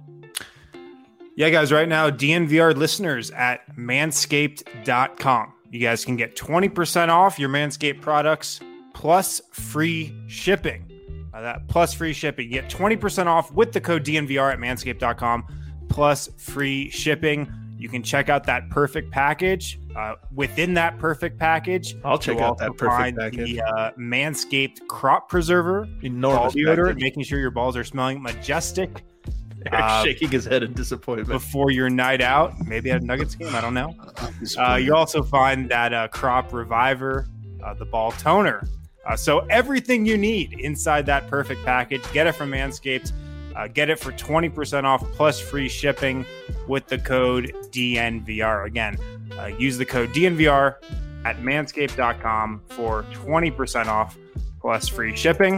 Yeah, guys, right now, D N V R listeners at manscaped dot com. You guys can get twenty percent off your Manscaped products plus free shipping. Uh, that plus free shipping. You get twenty percent off with the code D N V R at manscaped dot com plus free shipping. You can check out that perfect package. Uh, within that perfect package, I'll check out that perfect package. The uh, Manscaped Crop Preserver, enormous deodorant, making sure your balls are smelling majestic. Uh, shaking his head in disappointment before your night out, maybe at a Nuggets game. I don't know. Uh, you also find that uh, Crop Reviver, uh, the ball toner. Uh, so everything you need inside that perfect package. Get it from Manscaped. Uh, get it for twenty percent off plus free shipping with the code D N V R. Again, uh, use the code D N V R at manscaped dot com for twenty percent off plus free shipping.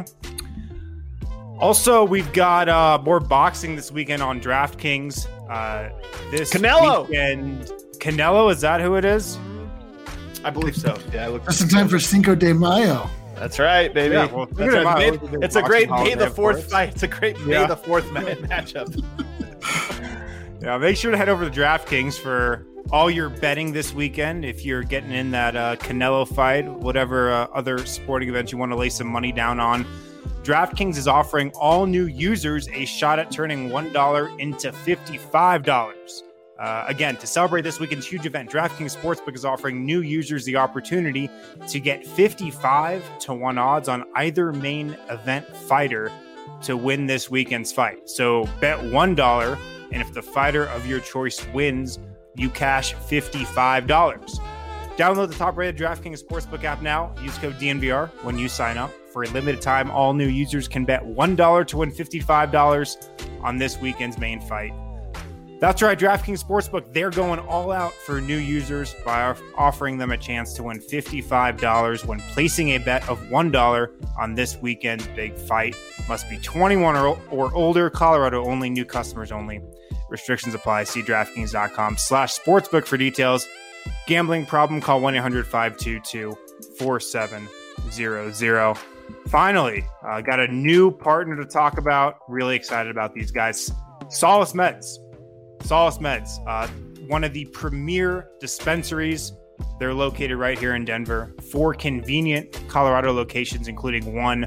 Also, we've got uh, more boxing this weekend on DraftKings. Uh, this Canelo. weekend, Canelo, is that who it is? I believe so. Yeah, I look just in time for Cinco de Mayo. That's right, baby. Yeah, well, That's right. May, it's a great May the fourth course. fight. It's a great May yeah. the fourth ma- matchup. Yeah, make sure to head over to DraftKings for all your betting this weekend. If you're getting in that uh, Canelo fight, whatever uh, other sporting events you want to lay some money down on, DraftKings is offering all new users a shot at turning one dollar into fifty-five dollars. Uh, again, to celebrate this weekend's huge event, DraftKings Sportsbook is offering new users the opportunity to get fifty-five to one odds on either main event fighter to win this weekend's fight. So bet one dollar, and if the fighter of your choice wins, you cash fifty-five dollars. Download the top-rated DraftKings Sportsbook app now. Use code D N V R when you sign up. For a limited time, all new users can bet one dollar to win fifty-five dollars on this weekend's main fight. That's right, DraftKings Sportsbook, they're going all out for new users by offering them a chance to win fifty-five dollars when placing a bet of one dollar on this weekend's big fight. Must be twenty-one or, or older, Colorado only, new customers only. Restrictions apply. See DraftKings.com slash sportsbook for details. Gambling problem, call one eight hundred five two two four seven zero zero. Finally, uh, got a new partner to talk about. Really excited about these guys. Solace Meds. Solace Meds, uh, one of the premier dispensaries. They're located right here in Denver. Four convenient Colorado locations, including one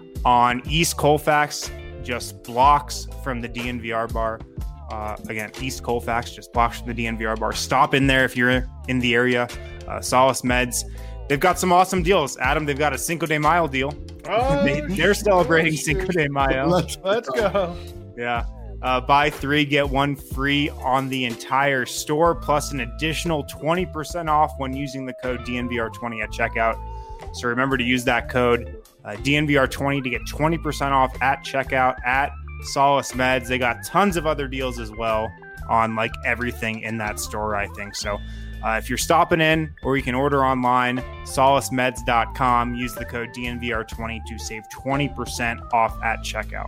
on East Colfax, just blocks from the D N V R bar. Uh, again, East Colfax, just blocks from the D N V R bar. Stop in there if you're in the area. Uh, Solace Meds. They've got some awesome deals. Adam, they've got a Cinco de Mayo deal. Oh, they, they're celebrating Cinco de Mayo. Let's, Let's go. Yeah. Uh, buy three, get one free on the entire store, plus an additional twenty percent off when using the code D N V R twenty at checkout. So remember to use that code uh, D N V R twenty to get twenty percent off at checkout at Solace Meds. They got tons of other deals as well on like everything in that store, I think. So uh, if you're stopping in, or you can order online, solace meds dot com, use the code D N V R twenty to save twenty percent off at checkout.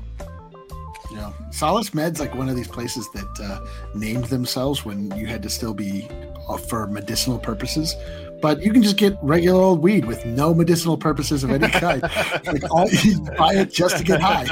Yeah, Solace Med's like one of these places that uh, named themselves when you had to still be uh, for medicinal purposes, but you can just get regular old weed with no medicinal purposes of any kind. Like all you buy it just to get high.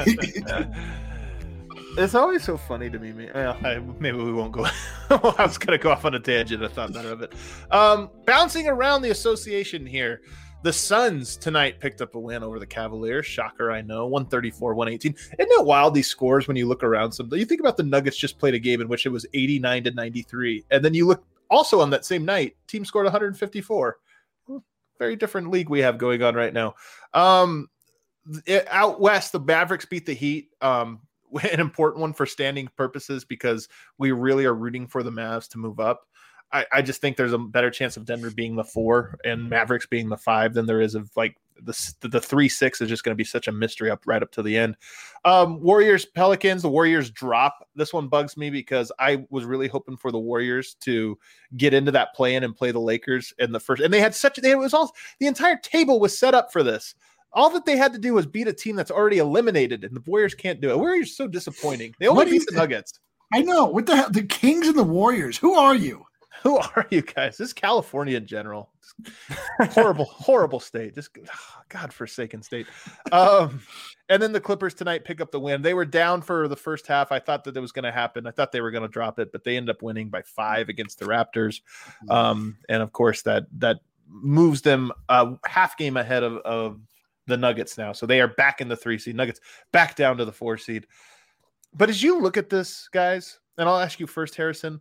It's always so funny to me. man. Well, I, maybe we won't go. I was going to go off on a tangent. I thought better of it. Um, bouncing around the association here. The Suns tonight picked up a win over the Cavaliers. Shocker, I know. one thirty-four one eighteen. Isn't it wild, these scores, when you look around some? You think about the Nuggets just played a game in which it was eighty-nine to ninety-three. And then you look also on that same night, team scored one fifty-four. Very different league we have going on right now. Um, it, out west, the Mavericks beat the Heat. Um, an important one for standing purposes because we really are rooting for the Mavs to move up. I, I just think there's a better chance of Denver being the four and Mavericks being the five than there is of like the the three six is just going to be such a mystery up right up to the end. Um, Warriors Pelicans. The Warriors drop. This one bugs me because I was really hoping for the Warriors to get into that play in and play the Lakers in the first. And they had such. They, it was all the entire table was set up for this. All that they had to do was beat a team that's already eliminated, and the Warriors can't do it. Warriors are so disappointing. They only beat the Nuggets. I know. What the hell? The Kings and the Warriors. Who are you? Who are you guys? This is California in general. Horrible, horrible state. Just oh, God-forsaken state. Um, and then the Clippers tonight pick up the win. They were down for the first half. I thought that it was going to happen. I thought they were going to drop it, but they ended up winning by five against the Raptors. Um, and of course, that that moves them a half game ahead of, of the Nuggets now. So they are back in the three seed. Nuggets back down to the four seed. But as you look at this, guys, and I'll ask you first, Harrison.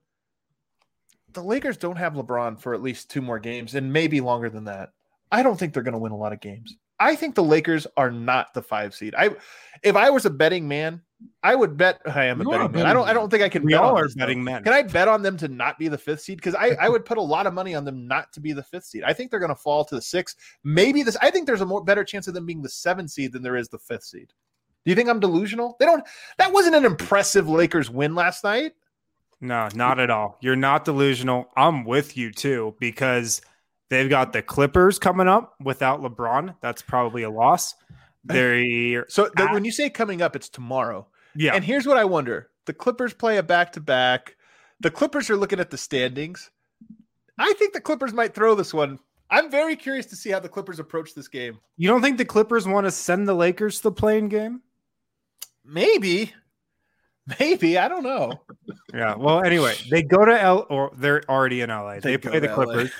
The Lakers don't have LeBron for at least two more games and maybe longer than that. I don't think they're going to win a lot of games. I think the Lakers are not the five seed. I, if I was a betting man, I would bet. I am a betting, a betting man. man. I don't. I don't think I can. We bet all on are betting men. Can I bet on them to not be the fifth seed? Because I, I would put a lot of money on them not to be the fifth seed. I think they're going to fall to the sixth. Maybe this. I think there's a more better chance of them being the seventh seed than there is the fifth seed. Do you think I'm delusional? They don't. That wasn't an impressive Lakers win last night. No, not at all. You're not delusional. I'm with you too, because they've got the Clippers coming up without LeBron. That's probably a loss. They're so the, at, when you say coming up, it's tomorrow. Yeah. And here's what I wonder. The Clippers play a back-to-back. The Clippers are looking at the standings. I think the Clippers might throw this one. I'm very curious to see how the Clippers approach this game. You don't think the Clippers want to send the Lakers to the playing game? Maybe. Maybe, I don't know. Yeah. Well, anyway, they go to L or they're already in L A. They, they play the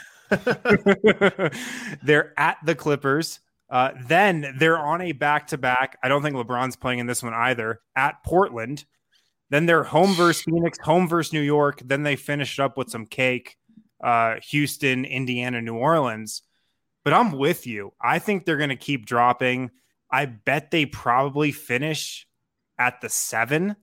Clippers. They're at the Clippers. Uh, then they're on a back-to-back. I don't think LeBron's playing in this one either. At Portland. Then they're home versus Phoenix, home versus New York. Then they finish up with some cake. Uh, Houston, Indiana, New Orleans. But I'm with you. I think they're going to keep dropping. I bet they probably finish at the seven.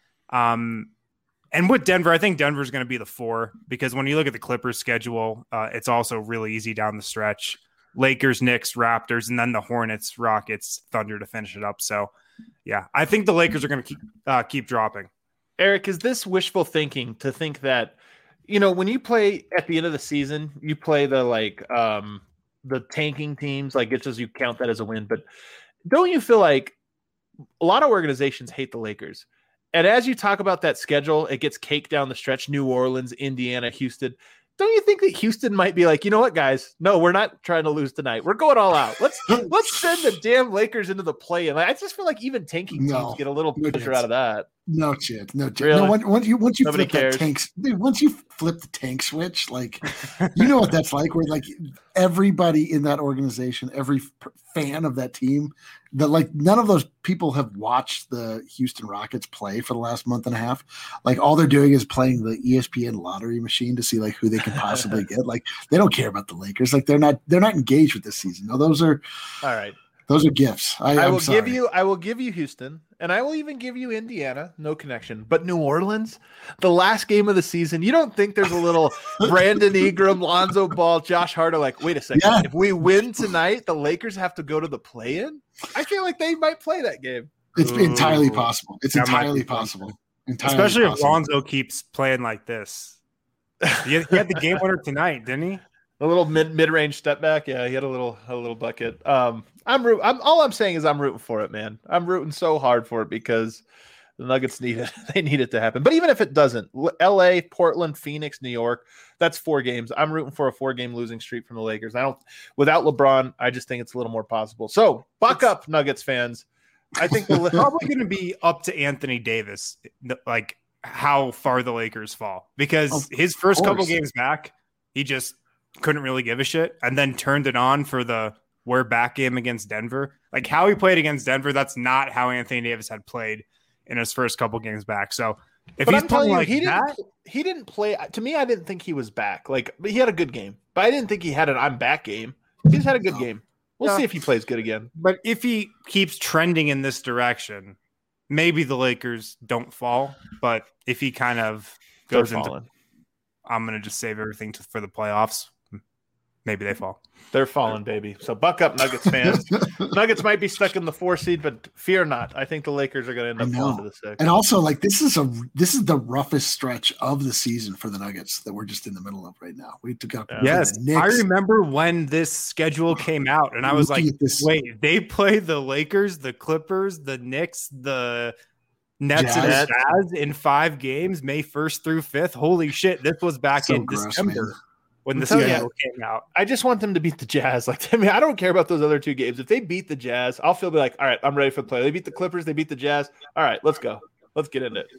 Um, and with Denver, I think Denver's going to be the four because when you look at the Clippers schedule, uh, it's also really easy down the stretch. Lakers, Knicks, Raptors, and then the Hornets, Rockets, Thunder to finish it up. So, yeah, I think the Lakers are going to keep uh, keep dropping. Eric, is this wishful thinking to think that, you know, when you play at the end of the season, you play the like um, the tanking teams, like it's just you count that as a win. But don't you feel like a lot of organizations hate the Lakers? And as you talk about that schedule, it gets caked down the stretch, New Orleans, Indiana, Houston. Don't you think that Houston might be like, you know what, guys? No, we're not trying to lose tonight. We're going all out. Let's let's send the damn Lakers into the play-in. Like, I just feel like even tanking teams no, get a little no pressure chance. out of that. No chance. No chance. Really? No, once, once you once you Nobody flip cares. that tanks, dude, once you flip the tank switch, like you know what that's like. Where like everybody in that organization, every f- fan of that team, that like none of those people have watched the Houston Rockets play for the last month and a half. Like all they're doing is playing the E S P N lottery machine to see like who they can possibly get. Like they don't care about the Lakers. Like they're not they're not engaged with this season. No, those are all right. Those are gifts. I, I I'm will sorry. give you. I will give you Houston, and I will even give you Indiana. No connection, but New Orleans, the last game of the season. You don't think there's a little Brandon Ingram, Lonzo Ball, Josh Hart are like, wait a second. Yeah. If we win tonight, the Lakers have to go to the play-in. I feel like they might play that game. It's Ooh. entirely possible. It's That might entirely be fun. possible. Entirely Especially if possible. Lonzo keeps playing like this. He had, he had the game winner tonight, didn't he? A little mid mid range step back. Yeah, he had a little a little bucket. Um, I'm root. I'm all I'm saying is I'm rooting for it, man. I'm rooting so hard for it because the Nuggets need it. They need it to happen. But even if it doesn't, L A, Portland, Phoenix, New York, that's four games. I'm rooting for a four game losing streak from the Lakers. I don't. Without LeBron, I just think it's a little more possible. So buck It's- up, Nuggets fans. I think the It's probably going to be up to Anthony Davis, like how far the Lakers fall, because Of his first couple course. games back, he just couldn't really give a shit, and then turned it on for the we're back game against Denver. Like how he played against Denver, that's not how Anthony Davis had played in his first couple games back. So if But he's I'm telling playing you, like he that, didn't. He didn't play. To me, I didn't think he was back. Like, but he had a good game. But I didn't think he had an "I'm back" game. He just had a good game. We'll Yeah. see if he plays good again. but if he keeps trending in this direction, maybe the Lakers don't fall. But if he kind of They're goes into, falling. I'm going to just save everything to, for the playoffs. Maybe they fall. They're falling, baby. So buck up, Nuggets fans. Nuggets might be stuck in the four seed, but fear not. I think the Lakers are going to end I up know. falling to the six. And also, like this is a this is the roughest stretch of the season for the Nuggets that we're just in the middle of right now. We took out Yes, the I Knicks. remember when this schedule came out, and I was like, Looking at this- "Wait, they play the Lakers, the Clippers, the Knicks, the Nets, and Jazz. the Jazz in five games, May first through fifth. Holy shit! This was back So in gross, December man. when the I'm telling you. schedule came out. I just want them to beat the Jazz. Like, I mean, I don't care about those other two games. If they beat the Jazz, I'll feel like, all right, I'm ready for the play. They beat the Clippers, they beat the Jazz. All right, let's go. Let's get into it.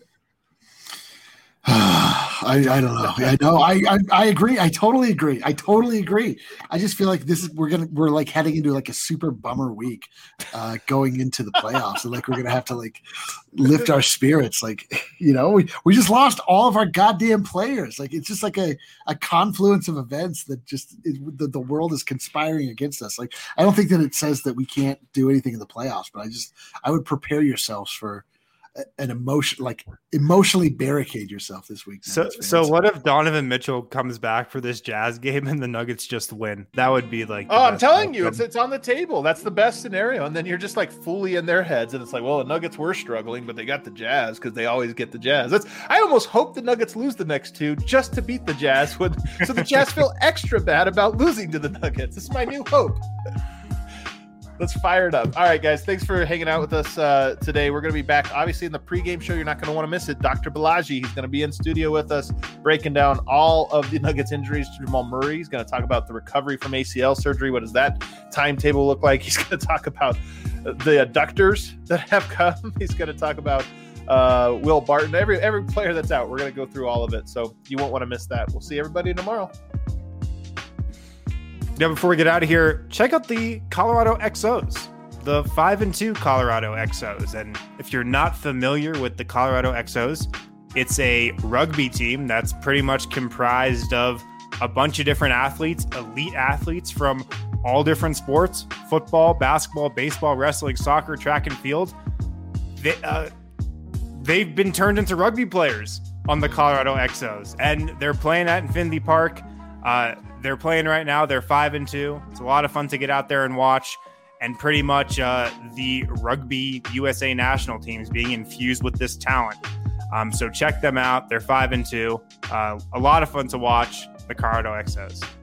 I, I don't know. I know. I, I I agree. I totally agree. I totally agree. I just feel like this is we're gonna we're like heading into like a super bummer week, uh, going into the playoffs, and like we're gonna have to like lift our spirits. Like you know, we, we just lost all of our goddamn players. Like it's just like a, a confluence of events that just it, the, the world is conspiring against us. Like I don't think that it says that we can't do anything in the playoffs, but I just I would prepare yourselves for an emotion, like emotionally barricade yourself this week. So, Nuggets so fans. what if Donovan Mitchell comes back for this Jazz game and the Nuggets just win? That would be like. the Oh, I'm best telling you, outcome. it's it's on the table. That's the best scenario. And then you're just like fully in their heads, and it's like, well, the Nuggets were struggling, but they got the Jazz because they always get the Jazz. That's I almost hope the Nuggets lose the next two just to beat the Jazz, when, so the Jazz feel extra bad about losing to the Nuggets. This is my new hope. Let's fire it up. All right, guys. Thanks for hanging out with us uh, today. We're going to be back, obviously, in the pregame show. You're not going to want to miss it. Doctor Balaji, he's going to be in studio with us, breaking down all of the Nuggets injuries to Jamal Murray. He's going to talk about the recovery from A C L surgery. What does that timetable look like? He's going to talk about the adductors that have come. He's going to talk about uh, Will Barton, every every player that's out. We're going to go through all of it, so you won't want to miss that. We'll see everybody tomorrow. Now, before we get out of here, check out the Colorado X Os, the five and two Colorado X Os. And if you're not familiar with the Colorado X Os, it's a rugby team that's pretty much comprised of a bunch of different athletes, elite athletes from all different sports: football, basketball, baseball, wrestling, soccer, track and field. They, uh, they've been turned into rugby players on the Colorado X Os, and they're playing at Infinity Park. Uh, they're playing right now. They're five and two. It's a lot of fun to get out there and watch. And pretty much uh, the Rugby U S A national teams being infused with this talent. Um, so check them out. They're five and two. Uh, a lot of fun to watch. The Colorado X Os.